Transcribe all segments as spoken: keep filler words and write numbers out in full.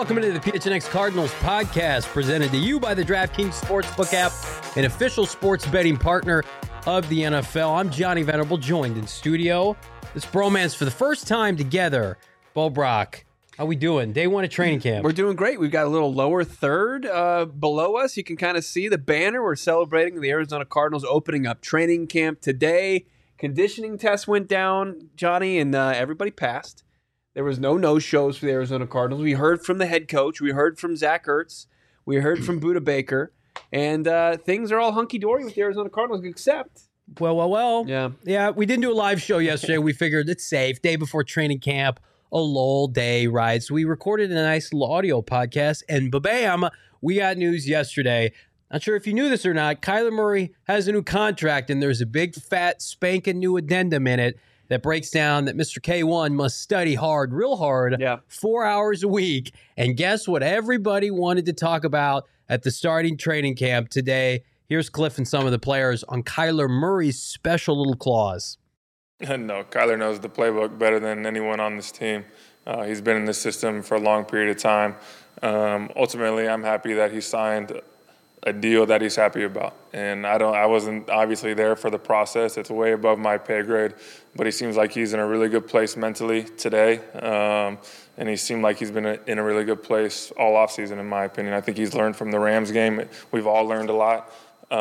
welcome into the P H N X Cardinals podcast, presented to you by the DraftKings Sportsbook app, an official sports betting partner of the N F L. I'm Johnny Venerable, joined in studio. This bromance for the first time together. Bo Brock, how we doing? Day one of training camp. We're doing great. We've got a little lower third uh, below us. You can kind of see the banner. We're celebrating the Arizona Cardinals opening up training camp today. Conditioning test went down, Johnny, and uh, everybody passed. There was no no-shows for the Arizona Cardinals. We heard from the head coach. We heard from Zach Ertz. We heard from Budda Baker. And uh, things are all hunky-dory with the Arizona Cardinals, except... Well, well, well. Yeah. Yeah, we didn't do a live show yesterday. We figured it's safe. Day before training camp, a lull day, right? So we recorded a nice little audio podcast, and ba-bam, we got news yesterday. Not sure if you knew this or not. Kyler Murray has a new contract, and there's a big, fat, spanking new addendum in it that breaks down that Mister K one must study hard, real hard, yeah. four hours a week. And guess what everybody wanted to talk about at the starting training camp today? Here's Cliff and some of the players on Kyler Murray's special little clause. No, Kyler knows the playbook better than anyone on this team. Uh, he's been in the system for a long period of time. Um, ultimately, I'm happy that he signed a deal that he's happy about. And I don't, I wasn't obviously there for the process. It's way above my pay grade, but he seems like he's in a really good place mentally today. Um, and he seemed like he's been in a really good place all offseason, in my opinion. I think he's learned from the Rams game. We've all learned a lot.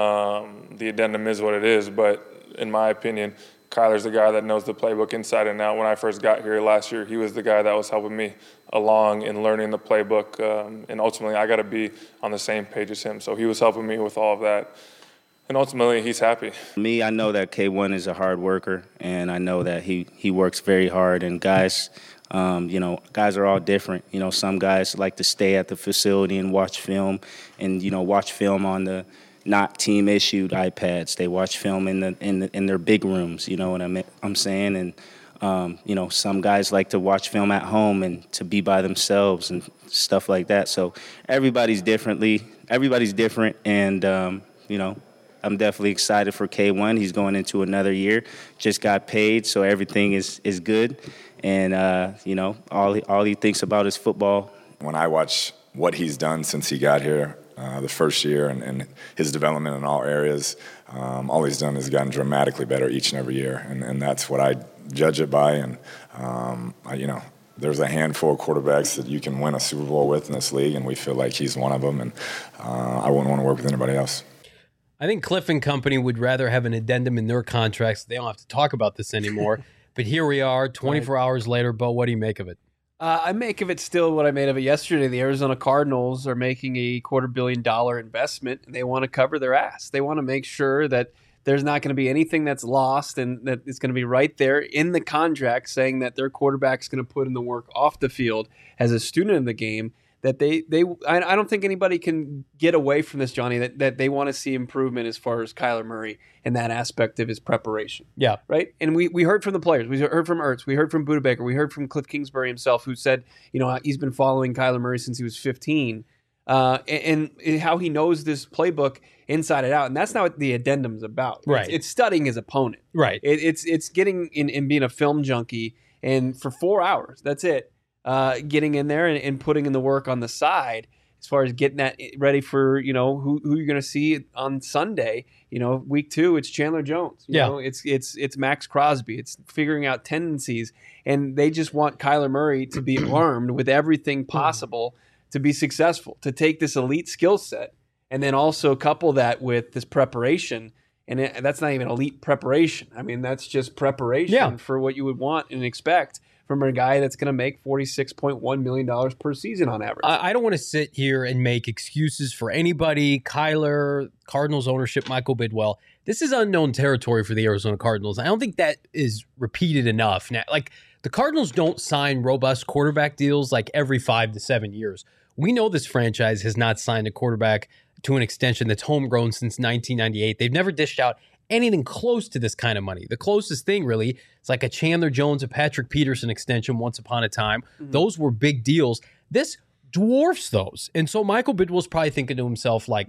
Um, the addendum is what it is, but in my opinion, Kyler's the guy that knows the playbook inside and out. When I first got here last year, he was the guy that was helping me along in learning the playbook. Um, and ultimately, I got to be on the same page as him. So he was helping me with all of that. And ultimately, he's happy. Me, I know that K one is a hard worker, and I know that he, he works very hard. And guys, um, you know, guys are all different. You know, some guys like to stay at the facility and watch film and, you know, watch film on the not team-issued iPads. They watch film in the in the, in their big rooms. You know what I'm I'm saying? And um, you know, some guys like to watch film at home and to be by themselves and stuff like that. So everybody's differently. Everybody's different, and um, you know, I'm definitely excited for K one. He's going into another year. Just got paid, so everything is is good. And uh, you know, all he, all he thinks about is football. When I watch what he's done since he got here, Uh, the first year and, and his development in all areas, um, all he's done is gotten dramatically better each and every year, and, and that's what I judge it by. And um, I, you know, there's a handful of quarterbacks that you can win a Super Bowl with in this league, and we feel like he's one of them. And uh, I wouldn't want to work with anybody else. I think Cliff and company would rather have an addendum in their contracts. They don't have to talk about this anymore. But here we are, twenty-four right. hours later. Bo, what do you make of it? Uh, I make of it still what I made of it yesterday. The Arizona Cardinals are making a quarter billion dollar investment, and they want to cover their ass. They want to make sure that there's not going to be anything that's lost, and that it's going to be right there in the contract saying that their quarterback's going to put in the work off the field as a student of the game. That they, they I, I don't think anybody can get away from this, Johnny, that, that they want to see improvement as far as Kyler Murray and that aspect of his preparation. Yeah. Right? And we, we heard from the players. We heard from Ertz. We heard from Budda Baker. We heard from Cliff Kingsbury himself, who said, you know, he's been following Kyler Murray since he was fifteen, uh, and, and how he knows this playbook inside and out. And that's not what the addendum's about. Right. It's, it's studying his opponent. Right. It, it's it's getting in and being a film junkie, and for four hours, that's it. Uh, getting in there and, and putting in the work on the side as far as getting that ready for, you know, who, who you're going to see on Sunday. You know, week two, it's Chandler Jones. You yeah. know, it's it's it's Max Crosby. It's figuring out tendencies. And they just want Kyler Murray to be armed with everything possible to be successful, to take this elite skill set and then also couple that with this preparation. And it, that's not even elite preparation. I mean, that's just preparation yeah. for what you would want and expect from a guy that's going to make forty-six point one million dollars per season on average. I, I don't want to sit here and make excuses for anybody. Kyler, Cardinals ownership, Michael Bidwell. This is unknown territory for the Arizona Cardinals. I don't think that is repeated enough. Now, like, the Cardinals don't sign robust quarterback deals like every five to seven years. We know this franchise has not signed a quarterback to an extension that's homegrown since nineteen ninety-eight. They've never dished out anything close to this kind of money. The closest thing, really, it's like a Chandler Jones, a Patrick Peterson extension once upon a time. Mm-hmm. Those were big deals. This dwarfs those. And so Michael Bidwell's probably thinking to himself, like,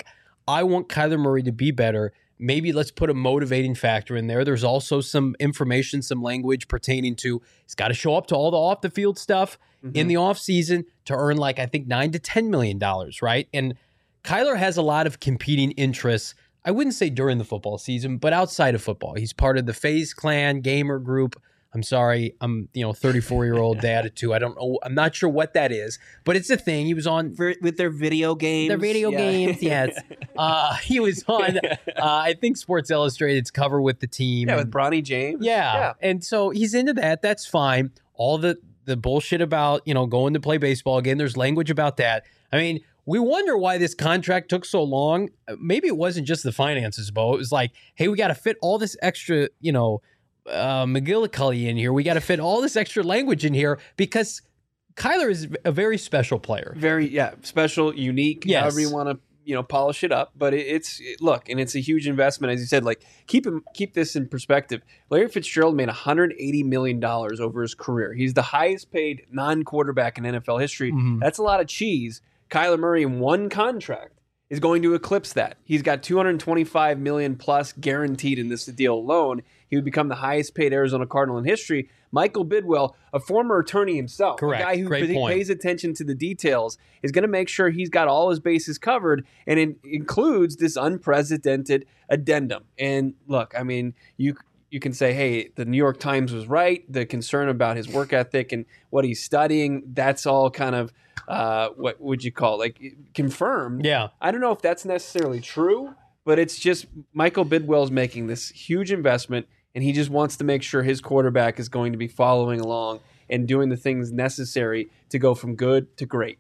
I want Kyler Murray to be better. Maybe let's put a motivating factor in there. There's also some information, some language pertaining to he's got to show up to all the off the field stuff mm-hmm. in the offseason to earn like, I think, nine to ten million dollars, right? And Kyler has a lot of competing interests. I wouldn't say during the football season, but outside of football. He's part of the FaZe Clan gamer group. I'm sorry, I'm, you know, thirty-four-year-old dad of two. I don't know. I'm not sure what that is, but it's a thing. He was on For, with their video games. Their video yeah. games, yes. Uh, he was on, uh, I think, Sports Illustrated's cover with the team. Yeah, and, with Bronny James. Yeah. yeah, and so he's into that. That's fine. All the the bullshit about, you know, going to play baseball again. There's language about that. I mean, we wonder why this contract took so long. Maybe it wasn't just the finances, Bo. It was like, hey, we got to fit all this extra, you know, uh, McGillicuddy in here. We got to fit all this extra language in here because Kyler is a very special player. Very, yeah, special, unique, yes. however you want to, you know, polish it up. But it, it's, it, look, and it's a huge investment. As you said, like, keep him, keep this in perspective. Larry Fitzgerald made one hundred eighty million dollars over his career. He's the highest paid non-quarterback in N F L history. Mm-hmm. That's a lot of cheese. Kyler Murray in one contract is going to eclipse that. He's got two hundred twenty-five million dollars plus guaranteed in this deal alone. He would become the highest paid Arizona Cardinal in history. Michael Bidwell, a former attorney himself, Correct. a guy who Great p- point. pays attention to the details, is going to make sure he's got all his bases covered, and it includes this unprecedented addendum. And look, I mean, you you can say, hey, the New York Times was right. The concern about his work ethic and what he's studying, that's all kind of, uh, what would you call it? Like, confirmed. Yeah. I don't know if that's necessarily true, but it's just Michael Bidwell's making this huge investment, and he just wants to make sure his quarterback is going to be following along and doing the things necessary to go from good to great.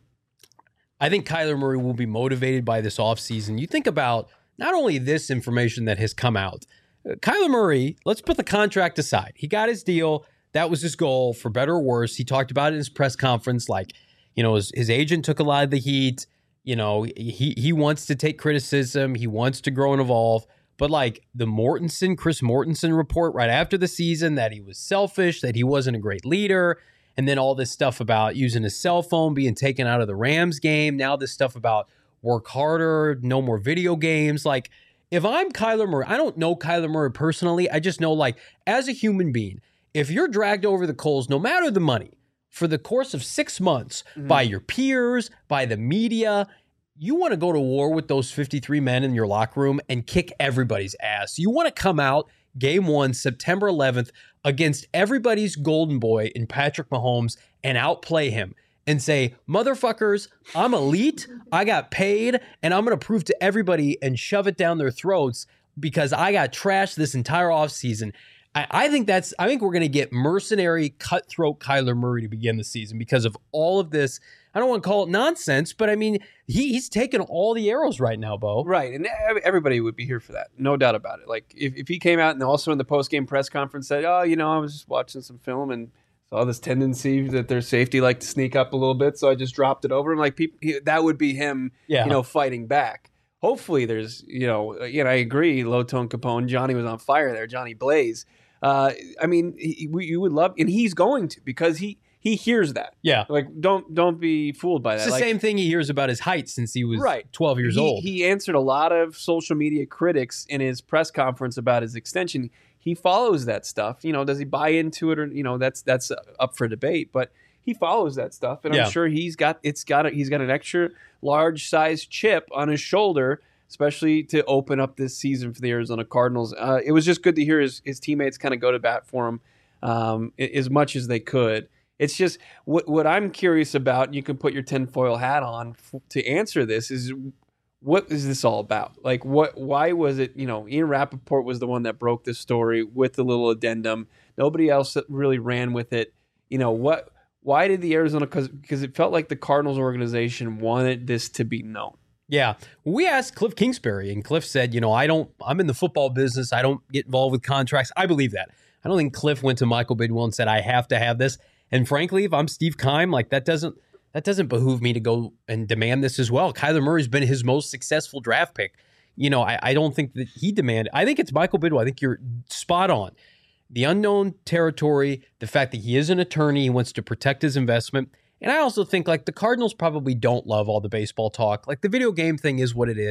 I think Kyler Murray will be motivated by this offseason. You think about not only this information that has come out, uh, Kyler Murray, let's put the contract aside. He got his deal. That was his goal, for better or worse. He talked about it in his press conference, like, you know, his, his agent took a lot of the heat. You know, he he wants to take criticism. He wants to grow and evolve. But like the Mortensen, Chris Mortensen report right after the season that he was selfish, that he wasn't a great leader, and then all this stuff about using his cell phone, being taken out of the Rams game. Now this stuff about work harder, no more video games. Like, if I'm Kyler Murray, I don't know Kyler Murray personally. I just know, like, as a human being, if you're dragged over the coals, no matter the money, for the course of six months mm-hmm. by your peers, by the media, you want to go to war with those fifty-three men in your locker room and kick everybody's ass. You want to come out game one, September eleventh, against everybody's golden boy in Patrick Mahomes and outplay him and say, motherfuckers, I'm elite, I got paid, and I'm going to prove to everybody and shove it down their throats because I got trashed this entire offseason. I, I think that's, I think we're going to get mercenary, cutthroat Kyler Murray to begin the season because of all of this. I don't want to call it nonsense, but I mean, he, he's taking all the arrows right now, Bo. Right, and everybody would be here for that, no doubt about it. Like, if, if he came out and also in the post-game press conference said, oh, you know, I was just watching some film and saw this tendency that their safety like to sneak up a little bit, so I just dropped it over him. Like, people, he, that would be him, yeah. you know, fighting back. Hopefully there's, you know, you know, I agree, Low Tone Capone, Johnny was on fire there, Johnny Blaze. Uh, I mean, he, we, you would love, and he's going to, because he, He hears that. Yeah. Like, don't don't be fooled by that. It's the like, same thing he hears about his height since he was right. twelve years he, old. He answered a lot of social media critics in his press conference about his extension. He follows that stuff. You know, does he buy into it or, you know, that's that's up for debate. But he follows that stuff. And yeah. I'm sure he's got, it's got a, he's got an extra large size chip on his shoulder, especially to open up this season for the Arizona Cardinals. Uh, it was just good to hear his, his teammates kind of go to bat for him um, as much as they could. It's just what what I'm curious about, and you can put your tinfoil hat on f- to answer this, is what is this all about? Like, what? Why was it, you know, Ian Rappaport was the one that broke this story with the little addendum. Nobody else really ran with it. You know, what? Why did the Arizona, because because it felt like the Cardinals organization wanted this to be known. Yeah. We asked Cliff Kingsbury, and Cliff said, you know, I don't, I'm in the football business. I don't get involved with contracts. I believe that. I don't think Cliff went to Michael Bidwell and said, I have to have this. And frankly, if I'm Steve Keim, like that doesn't that doesn't behoove me to go and demand this as well. Kyler Murray's been his most successful draft pick. You know, I, I don't think that he demanded. I think it's Michael Bidwell. I think you're spot on. The unknown territory, the fact that he is an attorney, he wants to protect his investment. And I also think like the Cardinals probably don't love all the baseball talk. Like the video game thing is what it is.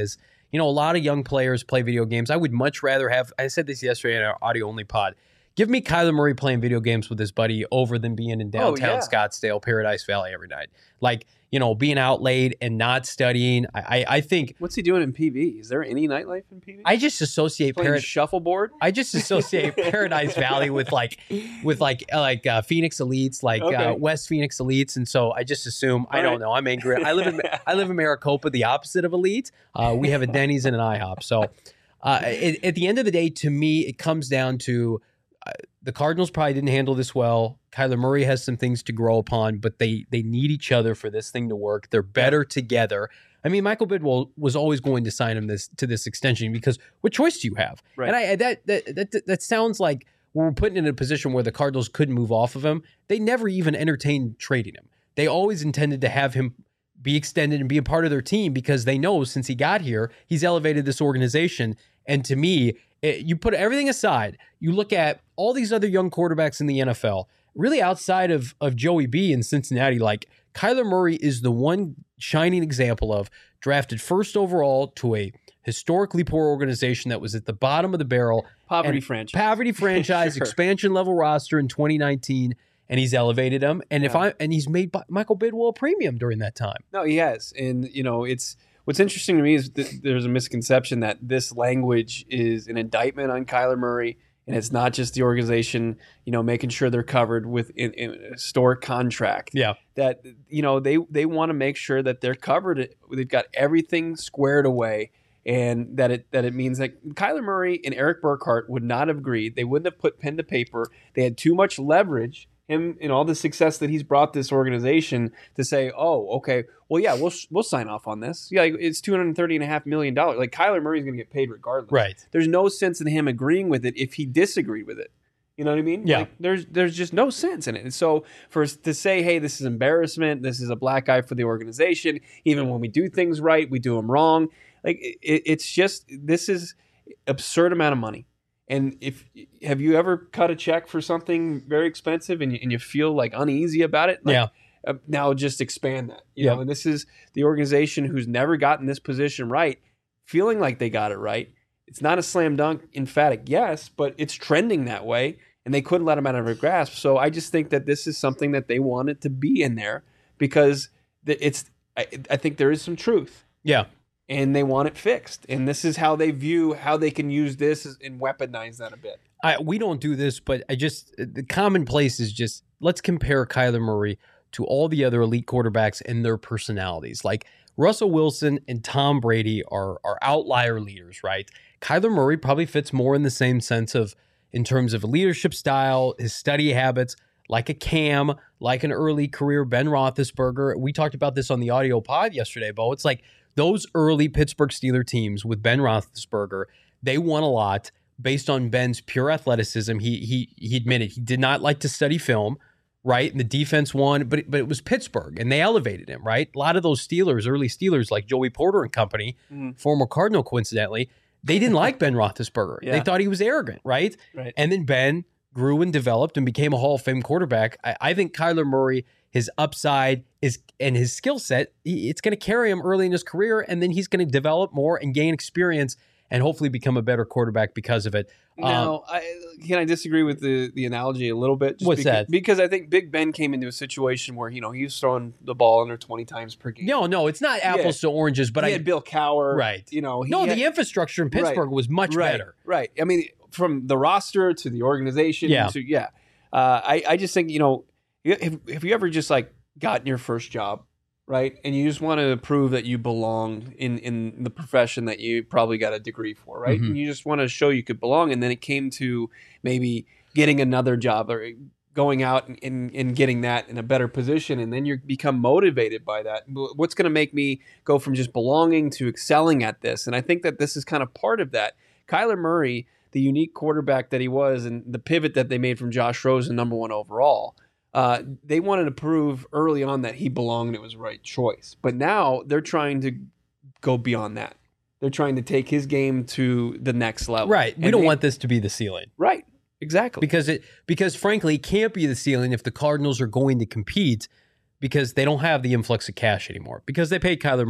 you know, a lot of young players play video games. I would much rather have, I said this yesterday in our audio only pod, give me Kyler Murray playing video games with his buddy over than being in downtown oh, yeah. Scottsdale, Paradise Valley every night. Like, you know, being out late and not studying. I, I, I think. What's he doing in P V? Is there any nightlife in P V? I just associate playing Parad- shuffleboard. I just associate Paradise Valley with like, with like, uh, like uh, Phoenix Elites, like Okay. uh, West Phoenix Elites, and so I just assume. I All don't right. know. I'm angry. I live in I live in Maricopa, the opposite of elite. Uh, we have a Denny's and an IHOP. So, uh, at, at the end of the day, to me, it comes down to. Uh, the Cardinals probably didn't handle this well. Kyler Murray has some things to grow upon, but they they need each other for this thing to work. They're better together. I mean, Michael Bidwell was always going to sign him this to this extension because what choice do you have? Right. And I that that that, that sounds like we're putting in a position where the Cardinals couldn't move off of him. They never even entertained trading him. They always intended to have him be extended and be a part of their team because they know since he got here, he's elevated this organization. And to me, it, you put everything aside, you look at all these other young quarterbacks in the N F L, really outside of, of Joey B in Cincinnati, like Kyler Murray is the one shining example of drafted first overall to a historically poor organization that was at the bottom of the barrel. Poverty and franchise. Poverty franchise, Sure. expansion level roster in twenty nineteen. And he's elevated him. And if Yeah. I and he's made Michael Bidwell a premium during that time. No, he has. And, you know, it's what's interesting to me is that there's a misconception that this language is an indictment on Kyler Murray. And it's not just the organization, you know, making sure they're covered with in, in a historic contract. Yeah. That, you know, they, they want to make sure that they're covered. They've got everything squared away. And that it that it means that Kyler Murray and Eric Burkhart would not have agreed. They wouldn't have put pen to paper. They had too much leverage. Him and all the success that he's brought this organization to say, oh, okay, well, yeah, we'll we'll sign off on this. Yeah, like, it's two hundred thirty and a half million dollars. Like Kyler Murray's going to get paid regardless. Right. There's no sense in him agreeing with it if he disagreed with it. You know what I mean? Yeah. Like, there's there's just no sense in it. And so for us to say, hey, this is embarrassment, this is a black eye for the organization. Even when we do things right, we do them wrong. Like it, it's just this is absurd amount of money. And if have you ever cut a check for something very expensive and you, and you feel like uneasy about it? Like, Yeah. Uh, now just expand that. You Yeah. know, and this is the organization who's never gotten this position right, feeling like they got it right. It's not a slam dunk, emphatic yes, but it's trending that way, and they couldn't let them out of their grasp. So I just think that this is something that they wanted to be in there because it's. I, I think there is some truth. Yeah. And they want it fixed. And this is how they view how they can use this and weaponize that a bit. I, we don't do this, but I just the commonplace is just let's compare Kyler Murray to all the other elite quarterbacks and their personalities. Like Russell Wilson and Tom Brady are are outlier leaders, right? Kyler Murray probably fits more in the same sense of in terms of leadership style, his study habits, like a Cam, like an early career Ben Roethlisberger. We talked about this on the audio pod yesterday, Bo. It's like those early Pittsburgh Steelers teams with Ben Roethlisberger, they won a lot based on Ben's pure athleticism. He he he admitted he did not like to study film, right? And the defense won, but it, but it was Pittsburgh, and they elevated him, right? A lot of those Steelers, early Steelers, like Joey Porter and company, Mhm. former Cardinal, coincidentally, they didn't like Ben Roethlisberger. Yeah. They thought he was arrogant, right? Right. And then Ben grew and developed and became a Hall of Fame quarterback. I, I think Kyler Murray, his upside is and his skill set, he, it's going to carry him early in his career, and then he's going to develop more and gain experience and hopefully become a better quarterback because of it. Now, I, can I disagree with the, the analogy a little bit? Just What's because, that? Because I think Big Ben came into a situation where, you know, he was throwing the ball under twenty times per game. No, no, it's not apples to oranges, but he I had Bill Cowher. Right. You know, he no, had, the infrastructure in Pittsburgh was much right, better. Right. I mean, from the roster to the organization. Yeah. To, yeah. Uh, I, I just think, you know, have, have you ever just like gotten your first job, right? And you just want to prove that you belong in, in the profession that you probably got a degree for, right? Mhm. And you just want to show you could belong. And then it came to maybe getting another job or going out and, and, and getting that in a better position. And then you become motivated by that. What's going to make me go from just belonging to excelling at this? And I think that this is kind of part of that. Kyler Murray, the unique quarterback that he was, and the pivot that they made from Josh Rosen, number one overall, uh, they wanted to prove early on that he belonged and it was the right choice. But now they're trying to go beyond that. They're trying to take his game to the next level. Right. We And don't they- want this to be the ceiling. Right. Exactly. Because it because frankly, it can't be the ceiling if the Cardinals are going to compete because they don't have the influx of cash anymore because they paid Kyler Murray.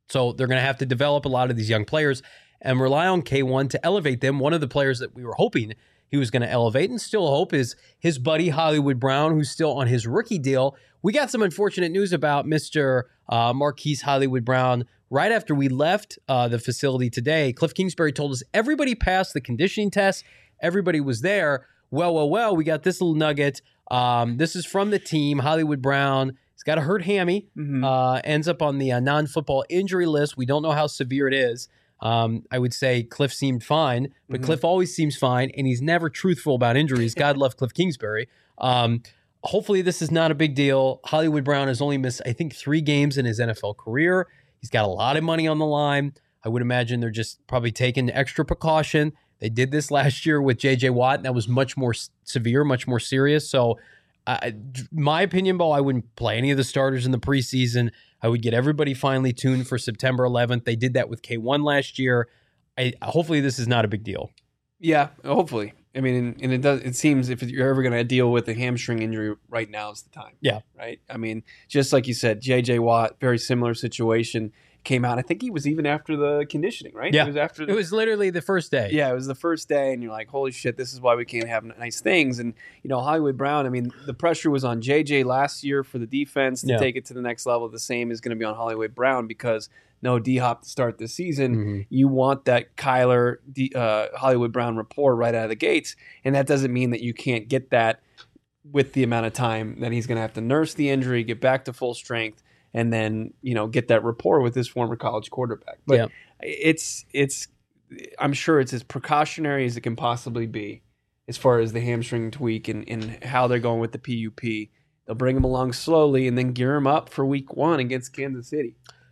So they're going to have to develop a lot of these young players and rely on K one to elevate them. One of the players that we were hoping he was going to elevate and still hope is his buddy Hollywood Brown, who's still on his rookie deal. We got some unfortunate news about Mister Uh, Marquise Hollywood Brown right after we left uh, the facility today. Cliff Kingsbury told us everybody passed the conditioning test. Everybody was there. Well, well, well, we got this little nugget. Um, this is from the team. Hollywood Brown, he's got a hurt hammy, Mm-hmm. uh, ends up on the uh, non-football injury list. We don't know how severe it is. Um, I would say Cliff seemed fine, but Mhm. Cliff always seems fine, and he's never truthful about injuries. God love Cliff Kingsbury. Um, hopefully this is not a big deal. Hollywood Brown has only missed, I think, three games in his N F L career. He's got a lot of money on the line. I would imagine they're just probably taking extra precaution. They did this last year with J J Watt, and that was much more s- severe, much more serious. So, uh, my opinion, Bo, I wouldn't play any of the starters in the preseason. I would get everybody finally tuned for September eleventh. They did that with K one last year. I, hopefully this is not a big deal. Yeah, hopefully. I mean, and it does. It seems if you're ever going to deal with a hamstring injury, right now is the time. Yeah. Right. I mean, just like you said, J J Watt, very similar situation. Came out. I think he was even after the conditioning, right? Yeah. It was after. The, It was literally the first day. Yeah, it was the first day, and you're like, holy shit, this is why we can't have nice things. And, you know, Hollywood Brown, I mean, the pressure was on J J last year for the defense to Yeah. take it to the next level. The same is going to be on Hollywood Brown because no D-Hop to start the season. Mhm. You want that Kyler, D, uh, Hollywood Brown rapport right out of the gates, and that doesn't mean that you can't get that with the amount of time that he's going to have to nurse the injury, get back to full strength, and then, you know, get that rapport with his former college quarterback. But Yeah. it's it's I'm sure it's as precautionary as it can possibly be as far as the hamstring tweak and, and how they're going with the P U P. They'll bring him along slowly and then gear him up for week one against Kansas City.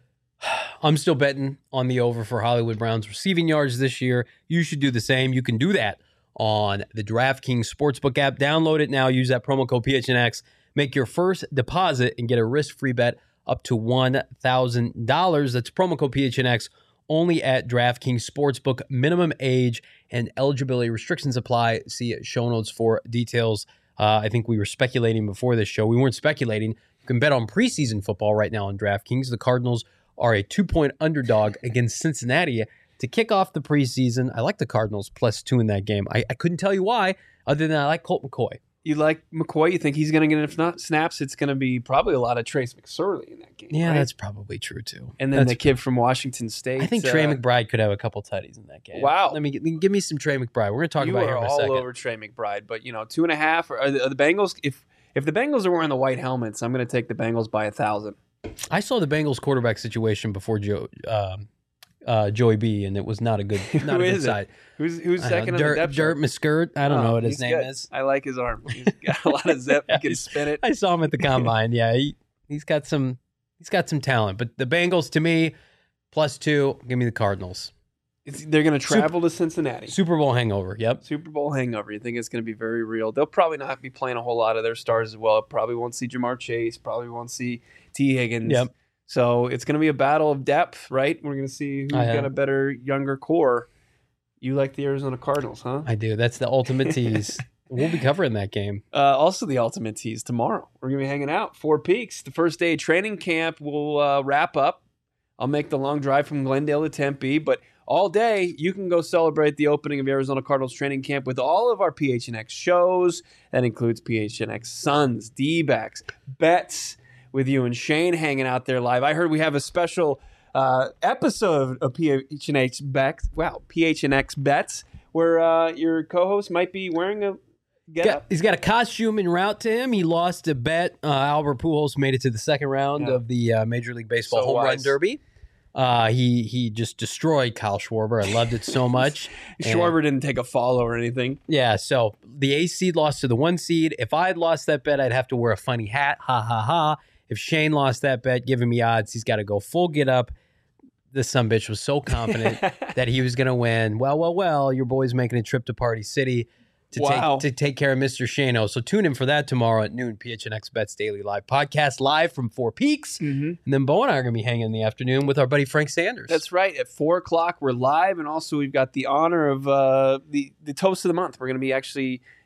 I'm still betting on the over for Hollywood Brown's receiving yards this year. You should do the same. You can do that on the DraftKings Sportsbook app. Download it now. Use that promo code P H N X. Make your first deposit and get a risk-free bet up to one thousand dollars. That's promo code P H N X only at DraftKings Sportsbook. Minimum age and eligibility restrictions apply. See show notes for details. Uh, I think we were speculating before this show. We weren't speculating. You can bet on preseason football right now on DraftKings. The Cardinals are a two-point underdog against Cincinnati to kick off the preseason. I like the Cardinals plus two in that game. I, I couldn't tell you why, other than I like Colt McCoy. You like McCoy? You think he's going to get enough not snaps? It's going to be probably a lot of Trace McSorley in that game. Yeah, right? that's probably true too. And then That's the kid from Washington State. I think Trey uh, McBride could have a couple tutties in that game. Wow. Let me get, give me some Trey McBride. We're going to talk you about are him in a all second. over Trey McBride, but you know, two and a half. Are the, are the Bengals? If if the Bengals are wearing the white helmets, I'm going to take the Bengals by a thousand. I saw the Bengals quarterback situation before Joe, um, uh, Joey B, and it was not a good, not Who a good is it? side. Who's who's I second don't know, on the Dirt, depth Dirt chart? Muskirt. I don't Oh, know what his he's name good. is. I like his arm. He's got a lot of zip. He can spin it. I saw him at the combine. Yeah, he he's got some he's got some talent. But the Bengals, to me, plus two. Give me the Cardinals. It's, they're going to travel to Cincinnati. Super Bowl hangover. Yep. Super Bowl hangover. You think it's going to be very real? They'll probably not be playing a whole lot of their stars as well. Probably won't see Jamar Chase. Probably won't see T. Higgins. Yep. So it's going to be a battle of depth, right? We're going to see who's I, uh, got a better younger core. You like the Arizona Cardinals, huh? I do. That's the ultimate tease. We'll be covering that game. Uh, also, the ultimate tease tomorrow. We're going to be hanging out. Four Peaks. The first day of training camp will uh, wrap up. I'll make the long drive from Glendale to Tempe, but all day you can go celebrate the opening of Arizona Cardinals training camp with all of our P H N X shows. That includes P H N X Suns, D-backs, bets with you and Shane hanging out there live. I heard we have a special uh, episode of P H N X bets. Wow, P H N X bets where uh, your co-host might be wearing a get Got- up. he's got a costume en route to him. He lost a bet. Uh, Albert Pujols made it to the second round Yeah. of the uh, Major League Baseball So Home Run wise. Derby. Uh, he he just destroyed Kyle Schwarber. I loved it so much. And- Schwarber didn't take a follow or anything. Yeah, so the A seed lost to the one seed. If I had lost that bet, I'd have to wear a funny hat. Ha ha ha. If Shane lost that bet, giving me odds, he's got to go full get up. This sumbitch was so confident that he was going to win. Well, well, well, your boy's making a trip to Party City to Wow. take to take care of Mister Shano. So tune in for that tomorrow at noon. P H N X Bets Daily Live podcast live from Four Peaks. Mm-hmm. And then Bo and I are going to be hanging in the afternoon with our buddy Frank Sanders. That's right. At four o'clock, we're live, and also we've got the honor of uh, the the toast of the month. We're going to be actually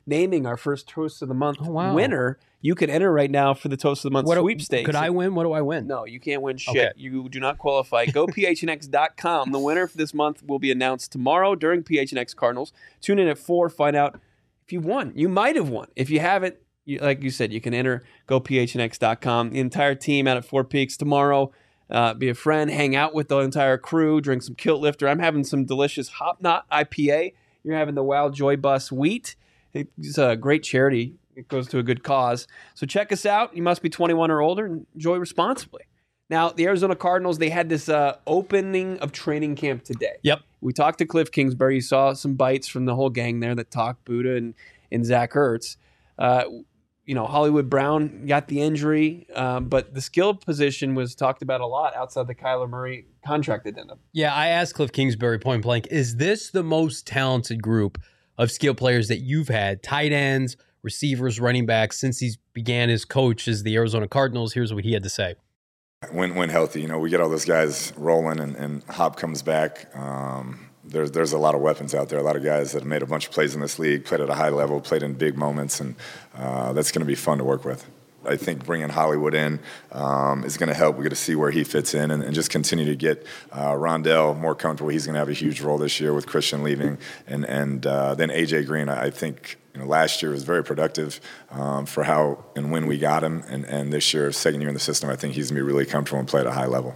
naming our first Toast of the Month Oh, wow. winner, you can enter right now for the Toast of the Month What do- sweepstakes. Could I win? What do I win? No, you can't win shit. Okay. You do not qualify. Go P H N X dot com. The winner for this month will be announced tomorrow during P H N X Cardinals. Tune in at four, find out if you won. You might have won. If you haven't, you, like you said, you can enter. Go P H N X dot com. The entire team out at Four Peaks tomorrow. Uh, be a friend, hang out with the entire crew, drink some Kilt Lifter. I'm having some delicious Hop Knot I P A. You're having the Wild Joy Bus Wheat. It's a great charity. It goes to a good cause. So check us out. You must be twenty-one or older and enjoy responsibly. Now, the Arizona Cardinals, they had this uh, opening of training camp today. Yep. We talked to Cliff Kingsbury. You saw some bites from the whole gang there that talked Buddha and, and Zach Ertz. Uh, you know, Hollywood Brown got the injury, um, but the skill position was talked about a lot outside the Kyler Murray contract addendum. Yeah, I asked Cliff Kingsbury point blank, is this the most talented group of skill players that you've had, tight ends, receivers, running backs, since he began his coach as the Arizona Cardinals? Here's what he had to say. When when healthy, you know, we get all those guys rolling, and, and Hop comes back. Um, there's there's a lot of weapons out there. A lot of guys that have made a bunch of plays in this league, played at a high level, played in big moments, and uh, that's going to be fun to work with. I think bringing Hollywood in um, is going to help. We got to see where he fits in, and, and just continue to get uh, Rondell more comfortable. He's going to have a huge role this year with Christian leaving, and and uh, then A J Green. I think you know last year was very productive um, for how and when we got him, and and this year, second year in the system, I think he's going to be really comfortable and play at a high level.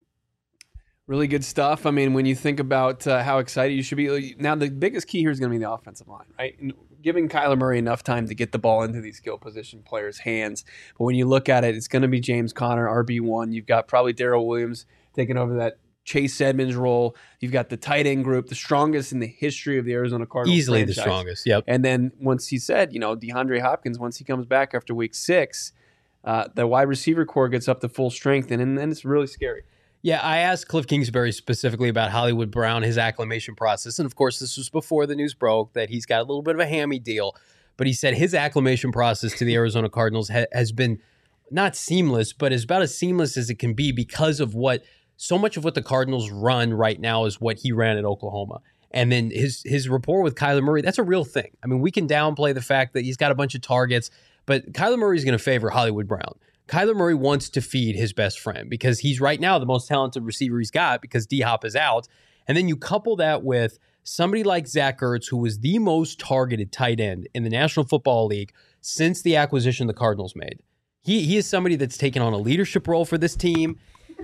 Really good stuff. I mean, when you think about uh, how excited you should be. Now, the biggest key here is going to be the offensive line, right? And giving Kyler Murray enough time to get the ball into these skill position players' hands. But when you look at it, it's going to be James Conner, R B one. You've got probably Darrell Williams taking over that Chase Edmonds role. You've got the tight end group, the strongest in the history of the Arizona Cardinals. Easily franchise. the strongest, yep. And then once he said, you know, DeAndre Hopkins, once he comes back after week six, uh, the wide receiver core gets up to full strength, and, and, and it's really scary. Yeah, I asked Cliff Kingsbury specifically about Hollywood Brown, his acclimation process. And of course, this was before the news broke that he's got a little bit of a hammy deal. But he said his acclimation process to the Arizona Cardinals ha- has been not seamless, but is about as seamless as it can be because of what so much of what the Cardinals run right now is what he ran at Oklahoma. And then his his rapport with Kyler Murray, that's a real thing. I mean, we can downplay the fact that he's got a bunch of targets, but Kyler Murray is going to favor Hollywood Brown. Kyler Murray wants to feed his best friend because he's right now the most talented receiver he's got because D-Hop is out. And then you couple that with somebody like Zach Ertz, who was the most targeted tight end in the National Football League since the acquisition the Cardinals made. He he is somebody that's taken on a leadership role for this team.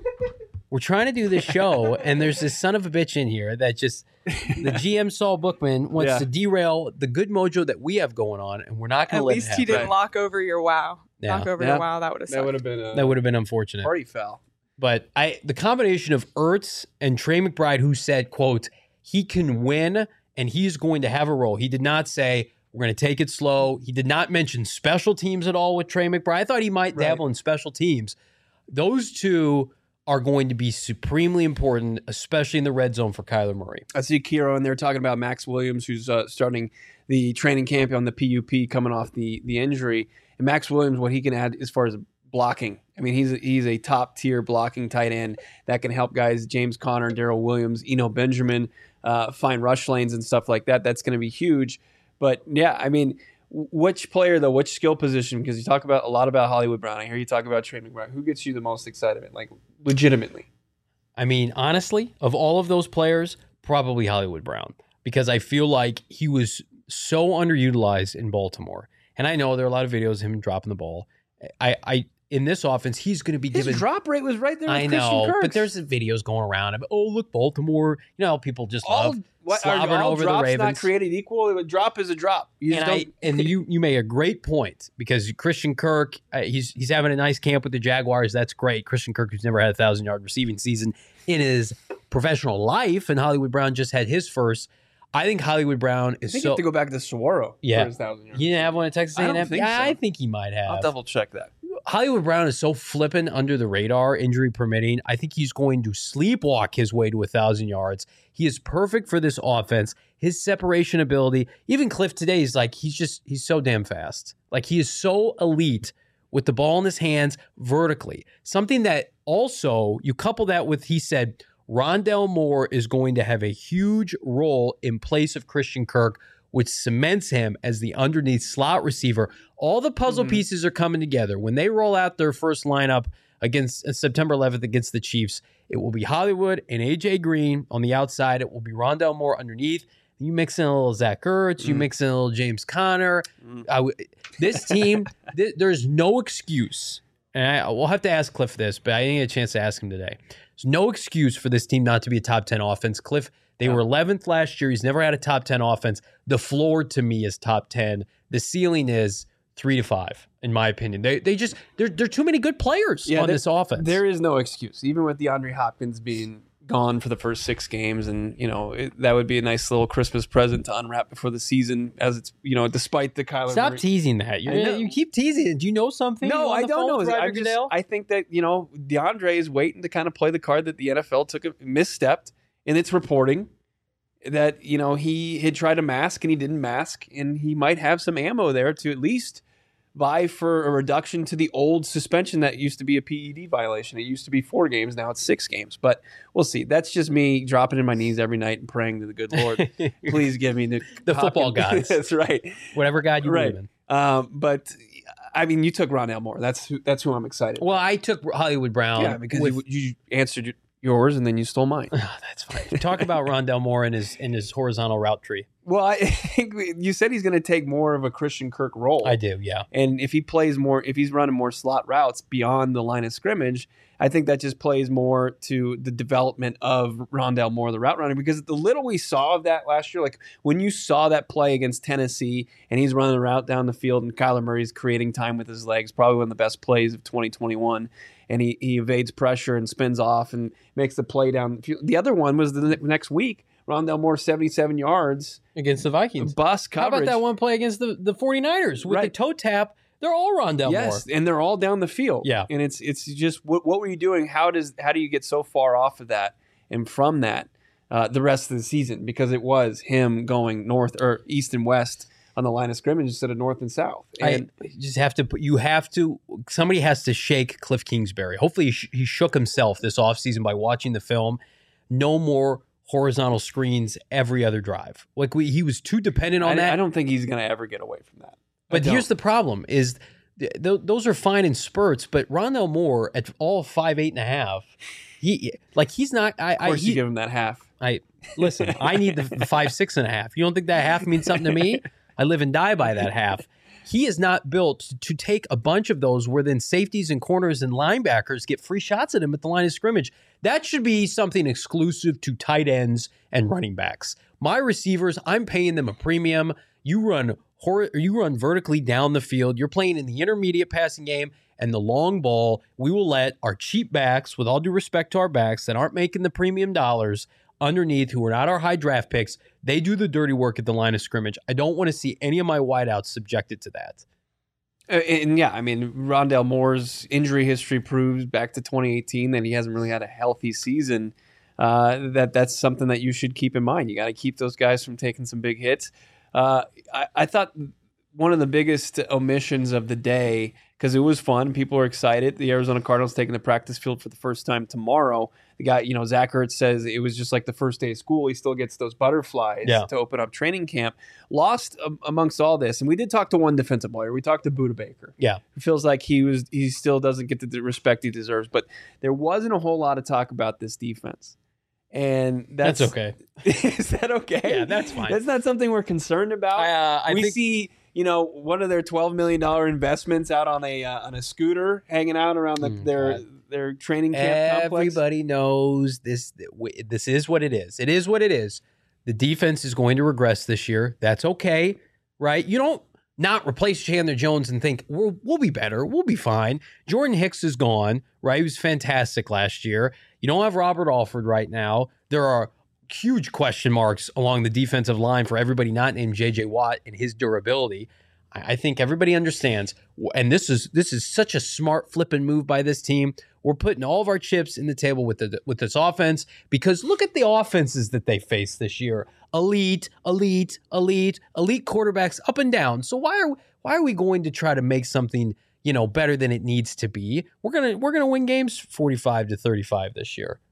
We're trying to do this show, and there's this son of a bitch in here that just, the G M Saul Bookman wants Yeah. to derail the good mojo that we have going on, and we're not going At to let it least happen. he didn't lock over your wow. Yeah. Knock over Yeah. your wow. That would have That sucked. would have been a That would have been unfortunate. party foul. But I, the combination of Ertz and Trey McBride, who said, quote, he can win and he's going to have a role. He did not say, we're going to take it slow. He did not mention special teams at all with Trey McBride. I thought he might Right. dabble in special teams. Those two are going to be supremely important, especially in the red zone for Kyler Murray. I see Kiro in there talking about Max Williams, who's uh, starting the training camp on the P U P coming off the the injury. And Max Williams, what he can add as far as blocking. I mean, he's a, he's a top tier blocking tight end that can help guys James Conner, Darrell Williams, Eno Benjamin uh, find rush lanes and stuff like that. That's going to be huge. But yeah, I mean, which player though, which skill position? Because you talk about a lot about Hollywood Brown. I hear you talk about Trey McBride. Who gets you the most excited? Like legitimately. I mean, honestly, of all of those players, probably Hollywood Brown, because I feel like he was so underutilized in Baltimore. And I know there are a lot of videos of him dropping the ball. I, I in this offense, he's going to be His given. drop rate was right there with I Christian know, Kirk. but there's videos going around of, oh, look, Baltimore. You know, people just all, love what, are slobbering all over the drops Ravens. not created equal? A drop is a drop. You just and I, don't, and you you made a great point because Christian Kirk, uh, he's he's having a nice camp with the Jaguars. That's great. Christian Kirk, who's never had a thousand yard receiving season in his professional life, and Hollywood Brown just had his first. I think Hollywood Brown I is think so. you have to go back to Saguaro Yeah. for his thousand yards. He didn't have one at Texas I A don't and M. think Yeah, so. I think he might have. I'll double check that. Hollywood Brown is so flippin' under the radar, injury permitting. I think he's going to sleepwalk his way to a thousand yards. He is perfect for this offense. His separation ability, even Cliff today, is like he's just he's so damn fast. Like he is so elite with the ball in his hands vertically. Something that also you couple that with, he said, Rondell Moore is going to have a huge role in place of Christian Kirk which cements him as the underneath slot receiver. All the puzzle mm-hmm. pieces are coming together. When they roll out their first lineup against uh, September eleventh against the Chiefs, it will be Hollywood and A J Green on the outside. It will be Rondale Moore underneath. You mix in a little Zach Ertz. You mm. mix in a little James Conner. Mm. I w- this team, th- there's no excuse. And I, we'll have to ask Cliff this, but I didn't get a chance to ask him today. There's no excuse for this team not to be a top ten offense. Cliff, they yeah. were eleventh last year. He's never had a top ten offense. The floor to me is top ten. The ceiling is three to five, in my opinion. They they just, there are too many good players yeah, on there, this offense. There is no excuse, even with DeAndre Hopkins being gone for the first six games, and you know it, that would be a nice little Christmas present to unwrap before the season. As it's you know, despite the Kyler Stop Murray. teasing that. You're, you keep teasing it. Do you know something? No, I don't know. I, just, I think that you know DeAndre is waiting to kind of play the card that the N F L took a misstepped in its reporting. That you know he had tried to mask and he didn't mask, and he might have some ammo there to at least vie for a reduction to the old suspension that used to be a P E D violation. It used to be four games, now it's six games. But we'll see. That's just me dropping in my knees every night and praying to the good Lord. Please give me the, the football gods. That's right. Whatever God you right. believe in. Um, but I mean, you took Rondale Moore. That's who, that's who I'm excited. Well, I took Hollywood Brown. Yeah, because with, you, you answered yours and then you stole mine. Oh, that's fine. Talk about Rondale Moore and his in his horizontal route tree. Well, I think you said he's going to take more of a Christian Kirk role. I do, yeah. And if he plays more, if he's running more slot routes beyond the line of scrimmage, I think that just plays more to the development of Rondale Moore, the route runner, because the little we saw of that last year, like when you saw that play against Tennessee and he's running a route down the field and Kyler Murray's creating time with his legs, probably one of the best plays of twenty twenty-one. And he, he evades pressure and spins off and makes the play down the field. The other one was the next week. Rondale Moore, seventy-seven yards. Against the Vikings. Bust coverage. How about that one play against the, the 49ers with right. the toe tap? They're all Rondale yes, Moore. Yes, and they're all down the field. Yeah. And it's it's just, what, what were you doing? How does how do you get so far off of that and from that uh, the rest of the season? Because it was him going north or east and west on the line of scrimmage instead of north and south. And I just have to put, you have to, somebody has to shake Cliff Kingsbury. Hopefully he, sh- he shook himself this offseason by watching the film. No more horizontal screens every other drive. Like we, he was too dependent on I, that. I don't think he's going to ever get away from that. But here's the problem is th- th- those are fine in spurts, but Rondale Moore at all five, eight and a half, he, like he's not, I, of course I, he, you give him that half. I, listen, I need the, the five, six and a half. You don't think that half means something to me? I live and die by that half. He is not built to take a bunch of those where then safeties and corners and linebackers get free shots at him at the line of scrimmage. That should be something exclusive to tight ends and running backs. My receivers, I'm paying them a premium. You run hor- you run vertically down the field. You're playing in the intermediate passing game and the long ball. We will let our cheap backs, with all due respect to our backs that aren't making the premium dollars underneath, who are not our high draft picks, they do the dirty work at the line of scrimmage. I don't want to see any of my wideouts subjected to that. Uh, and yeah, I mean, Rondale Moore's injury history proves back to twenty eighteen that he hasn't really had a healthy season. Uh, that that's something that you should keep in mind. You got to keep those guys from taking some big hits. Uh, I, I thought one of the biggest omissions of the day, because it was fun, people were excited. The Arizona Cardinals taking the practice field for the first time tomorrow. The guy, you know, Zach Ertz says it was just like the first day of school. He still gets those butterflies yeah. to open up training camp. Lost um, amongst all this, and we did talk to one defensive player. We talked to Budda Baker. Yeah, it feels like he was he still doesn't get the respect he deserves. But there wasn't a whole lot of talk about this defense, and that's, that's okay. Is that okay? Yeah, that's fine. That's not something we're concerned about. Uh, I we think- see. You know, one of their twelve million dollars investments out on a uh, on a scooter, hanging out around the, Mm, their God. their training camp complex. Everybody knows this. This is what it is. It is what it is. The defense is going to regress this year. That's okay, right? You don't not replace Chandler Jones and think we'll, we'll be better. We'll be fine. Jordan Hicks is gone, right? He was fantastic last year. You don't have Robert Alford right now. There are huge question marks along the defensive line for everybody not named J J Watt and his durability. I think everybody understands, and this is this is such a smart flipping move by this team. We're putting all of our chips in the table with the with this offense, because look at the offenses that they face this year: elite, elite, elite, elite quarterbacks up and down. So why are why are we going to try to make something, you know, better than it needs to be? We're gonna we're gonna win games forty-five to thirty-five this year.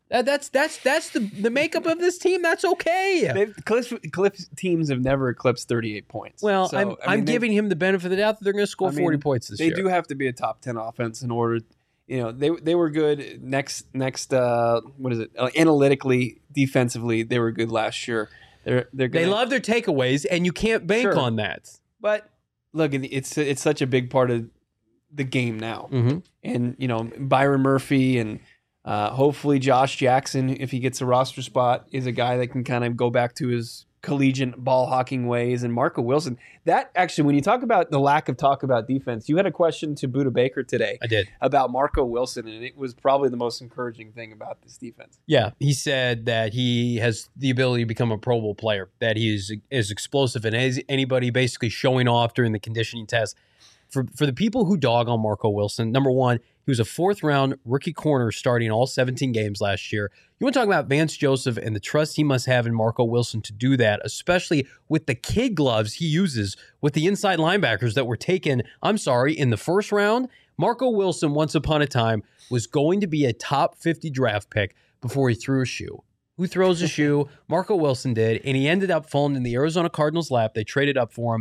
That, that's that's that's the the makeup of this team. That's okay. They've, Cliff, Cliff teams have never eclipsed thirty-eight points. Well, So, I'm I mean, I'm they- giving him the benefit of the doubt that they're going to score I mean, forty points this They year. do have to be a top ten offense in order. You know, they they were good next next. Uh, what is it? Uh, analytically, defensively, they were good last year. They're they're They gonna, love their takeaways, and you can't bank Sure. on that. but look, it's it's such a big part of the game now. Mm-hmm. And you know, Byron Murphy and uh, hopefully Josh Jackson, if he gets a roster spot, is a guy that can kind of go back to his collegiate ball hawking ways. And Marco Wilson, that actually, when you talk about the lack of talk about defense, you had a question to Buda Baker today I did. about Marco Wilson, and it was probably the most encouraging thing about this defense. Yeah, he said that he has the ability to become a Pro Bowl player, that he is as explosive as anybody, basically showing off during the conditioning test. For for the people who dog on Marco Wilson, number one, he was a fourth round rookie corner starting all seventeen games last year. You want to talk about Vance Joseph and the trust he must have in Marco Wilson to do that, especially with the kid gloves he uses with the inside linebackers that were taken, I'm sorry, in the first round. Marco Wilson, once upon a time, was going to be a top fifty draft pick before he threw a shoe. Who throws a shoe? Marco Wilson did, and he ended up falling in the Arizona Cardinals' lap. They traded up for him.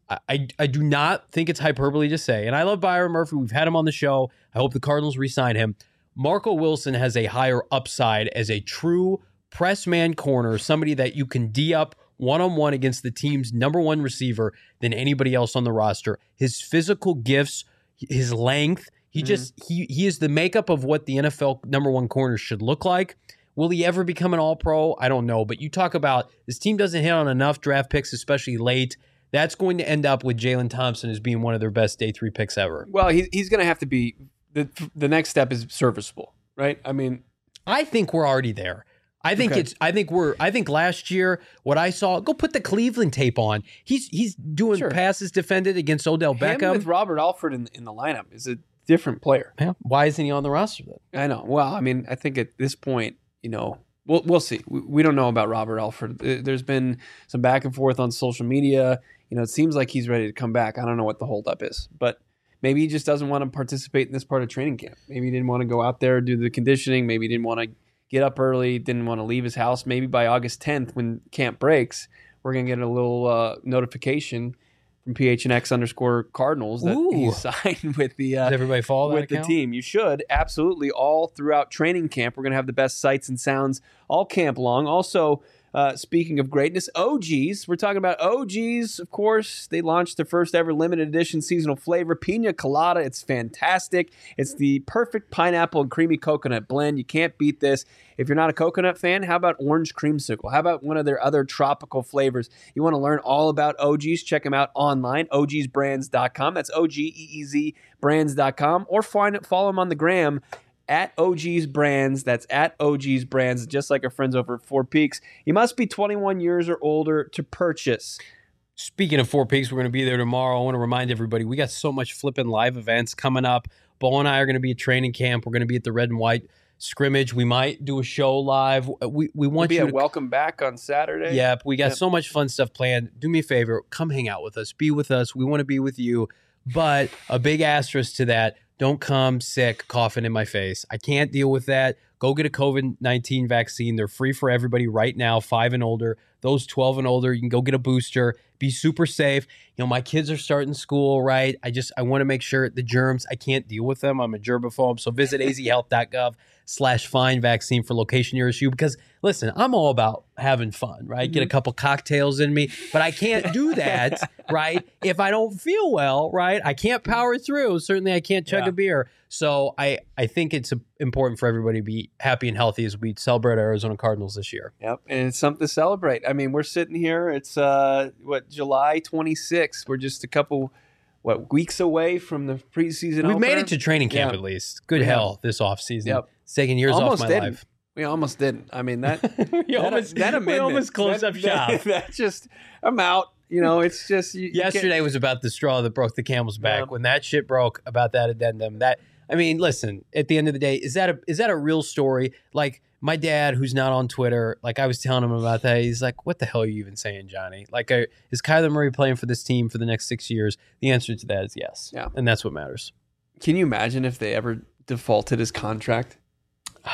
I, I do not think it's hyperbole to say, and I love Byron Murphy. We've had him on the show. I hope the Cardinals re-sign him. Marco Wilson has a higher upside as a true press man corner, somebody that you can D up one-on-one against the team's number one receiver than anybody else on the roster. His physical gifts, his length, he Mm-hmm. just he he is the makeup of what the N F L number one corner should look like. Will he ever become an all-pro? I don't know. But you talk about this team doesn't hit on enough draft picks, especially late. That's going to end up with Jalen Thompson as being one of their best day three picks ever. Well, he, he's going to have to be the the next step is serviceable, right? I mean, I think we're already there. I think Okay. it's. I think we're. I think last year what I saw. Go put the Cleveland tape on. He's he's doing Sure. passes defended against Odell him Beckham. with Robert Alford in, in the lineup is a different player. Yeah. Why isn't he on the roster then? I know. Well, I mean, I think at this point, you know, we'll we'll see. We, we don't know about Robert Alford. There- There's been some back and forth on social media. You know, it seems like he's ready to come back. I don't know what the holdup is, but maybe he just doesn't want to participate in this part of training camp. Maybe he didn't want to go out there do the conditioning. Maybe he didn't want to get up early. Didn't want to leave his house. Maybe by August tenth, when camp breaks, we're gonna get a little uh, notification from P H N X underscore Cardinals that Ooh. he signed with the. Uh, Does everybody follow that with the account? team. You should absolutely all throughout training camp. We're going to have the best sights and sounds all camp long. Also, uh, speaking of greatness, O Gs. We're talking about O Gs, of course. They launched their first ever limited edition seasonal flavor, Pina Colada. It's fantastic. It's the perfect pineapple and creamy coconut blend. You can't beat this. If you're not a coconut fan, how about orange creamsicle? How about one of their other tropical flavors? You want to learn all about O Gs? Check them out online, O Gs brands dot com. That's O G E E Z brands dot com. Or find it, follow them on the gram at O Gs Brands. That's at O Gs Brands, just like our friends over at Four Peaks. You must be twenty-one years or older to purchase. Speaking of Four Peaks, we're going to be there tomorrow. I want to remind everybody we got so much flipping live events coming up. Bo and I are going to be at training camp. We're going to be at the Red and White scrimmage. We might do a show live. We we We'll want be you at to Welcome Back on Saturday. Yep, we got Yep. so much fun stuff planned. Do me a favor, come hang out with us. Be with us. We want to be with you. But a big asterisk to that, don't come sick, coughing in my face. I can't deal with that. Go get a COVID nineteen vaccine. They're free for everybody right now, five and older. Those twelve and older, you can go get a booster. Be super safe. You know, my kids are starting school, right? I just, I want to make sure the germs, I can't deal with them. I'm a germaphobe. So visit azhealth.gov slash find vaccine for location nearest you. Because listen, I'm all about having fun, right? Get a couple cocktails in me, but I can't do that, right? If I don't feel well, right? I can't power through. Certainly I can't chug Yeah. a beer. So I, I think it's important for everybody to be happy and healthy as we celebrate our Arizona Cardinals this year. Yep, and it's something to celebrate. I mean, we're sitting here. It's uh, what July twenty-sixth. We're just a couple, what weeks away from the preseason. We've made opener. it to training camp Yeah. at least. Good We have. hell this offseason. Yep. It's taking years Almost off my didn't. life. We almost didn't. I mean that. we, that, almost, that we amendment, almost closed that, up shop. That, that just, I'm out. You know, it's just you, you can't- Yesterday was about the straw that broke the camel's back. Yeah. When that shit broke about that addendum, that I mean, listen. At the end of the day, is that a is that a real story? Like my dad, who's not on Twitter, like I was telling him about that. He's like, "What the hell are you even saying, Johnny? Like, uh, is Kyler Murray playing for this team for the next six years?" The answer to that is yes. Yeah. and that's what matters. Can you imagine if they ever defaulted his contract? Oh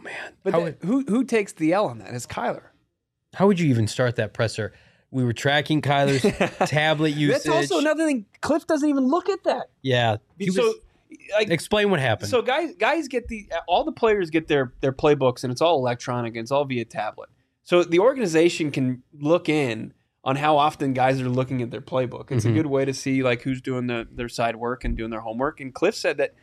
man. But how, the, would, who who takes the L on that? Is Kyler. how would you even start that presser? We were tracking Kyler's tablet usage. That's also another thing. Cliff doesn't even look at that. Yeah. He So, was- like, explain what happened. so guys, guys get the all the players get their their playbooks, and it's all electronic, and it's all via tablet. So the organization can look in on how often guys are looking at their playbook. It's Mhm. a good way to see like who's doing the, their side work and doing their homework. And Cliff said that,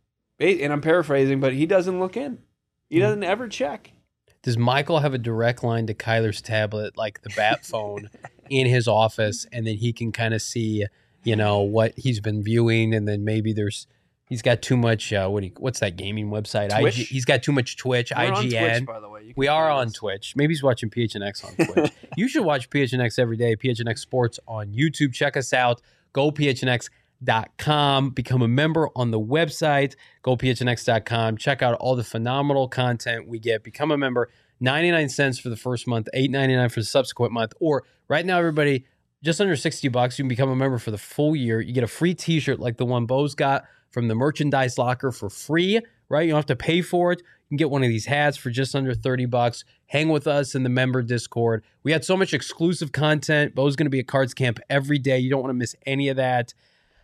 and I'm paraphrasing, but he doesn't look in. He Mm. doesn't ever check. Does Michael have a direct line to Kyler's tablet, like the bat phone, in his office, and then he can kind of see, you know, what he's been viewing, and then maybe there's he's got too much. Uh, what do you, what's that gaming website? Twitch? I G, he's got too much Twitch. We're on I G N. Twitch, by the way. You can We are find on us. Twitch. Maybe he's watching P H N X on Twitch. You should watch P H N X every day. P H N X Sports on YouTube. Check us out. Go P H N X dot com. Become a member on the website. Go P H N X dot com. Check out all the phenomenal content we get. Become a member. ninety-nine cents for the first month, eight ninety-nine for the subsequent month. Or right now, everybody, just under sixty bucks, you can become a member for the full year. You get a free t-shirt like the one Bo's got from the merchandise locker for free, right? You don't have to pay for it. You can get one of these hats for just under thirty bucks. Hang with us in the member Discord. We had so much exclusive content. Bo's going to be at Cards Camp every day. You don't want to miss any of that.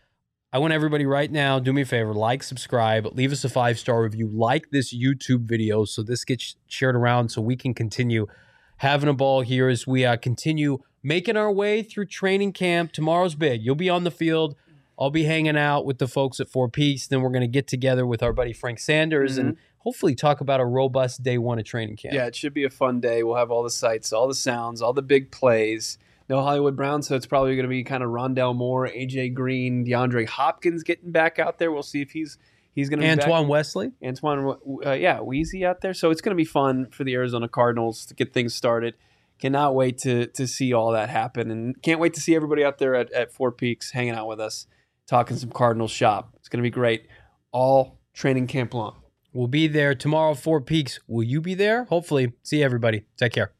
I want everybody right now, do me a favor, like, subscribe, leave us a five-star review, like this YouTube video so this gets shared around so we can continue having a ball here as we uh, continue making our way through training camp. Tomorrow's big. You'll be on the field. I'll be hanging out with the folks at Four Peaks. Then we're going to get together with our buddy Frank Sanders Mm-hmm. and hopefully talk about a robust day one of training camp. Yeah, it should be a fun day. We'll have all the sights, all the sounds, all the big plays. No Hollywood Brown, so it's probably going to be kind of Rondell Moore, A J Green, DeAndre Hopkins getting back out there. We'll see if he's he's going to be Antoine back. Wesley. Antoine, uh, yeah, Weezy out there. So it's going to be fun for the Arizona Cardinals to get things started. Cannot wait to to see all that happen, and can't wait to see everybody out there at, at Four Peaks hanging out with us, talking some Cardinals shop. It's going to be great, all training camp long. We'll be there tomorrow, Four Peaks. Will you be there? Hopefully. See everybody. Take care.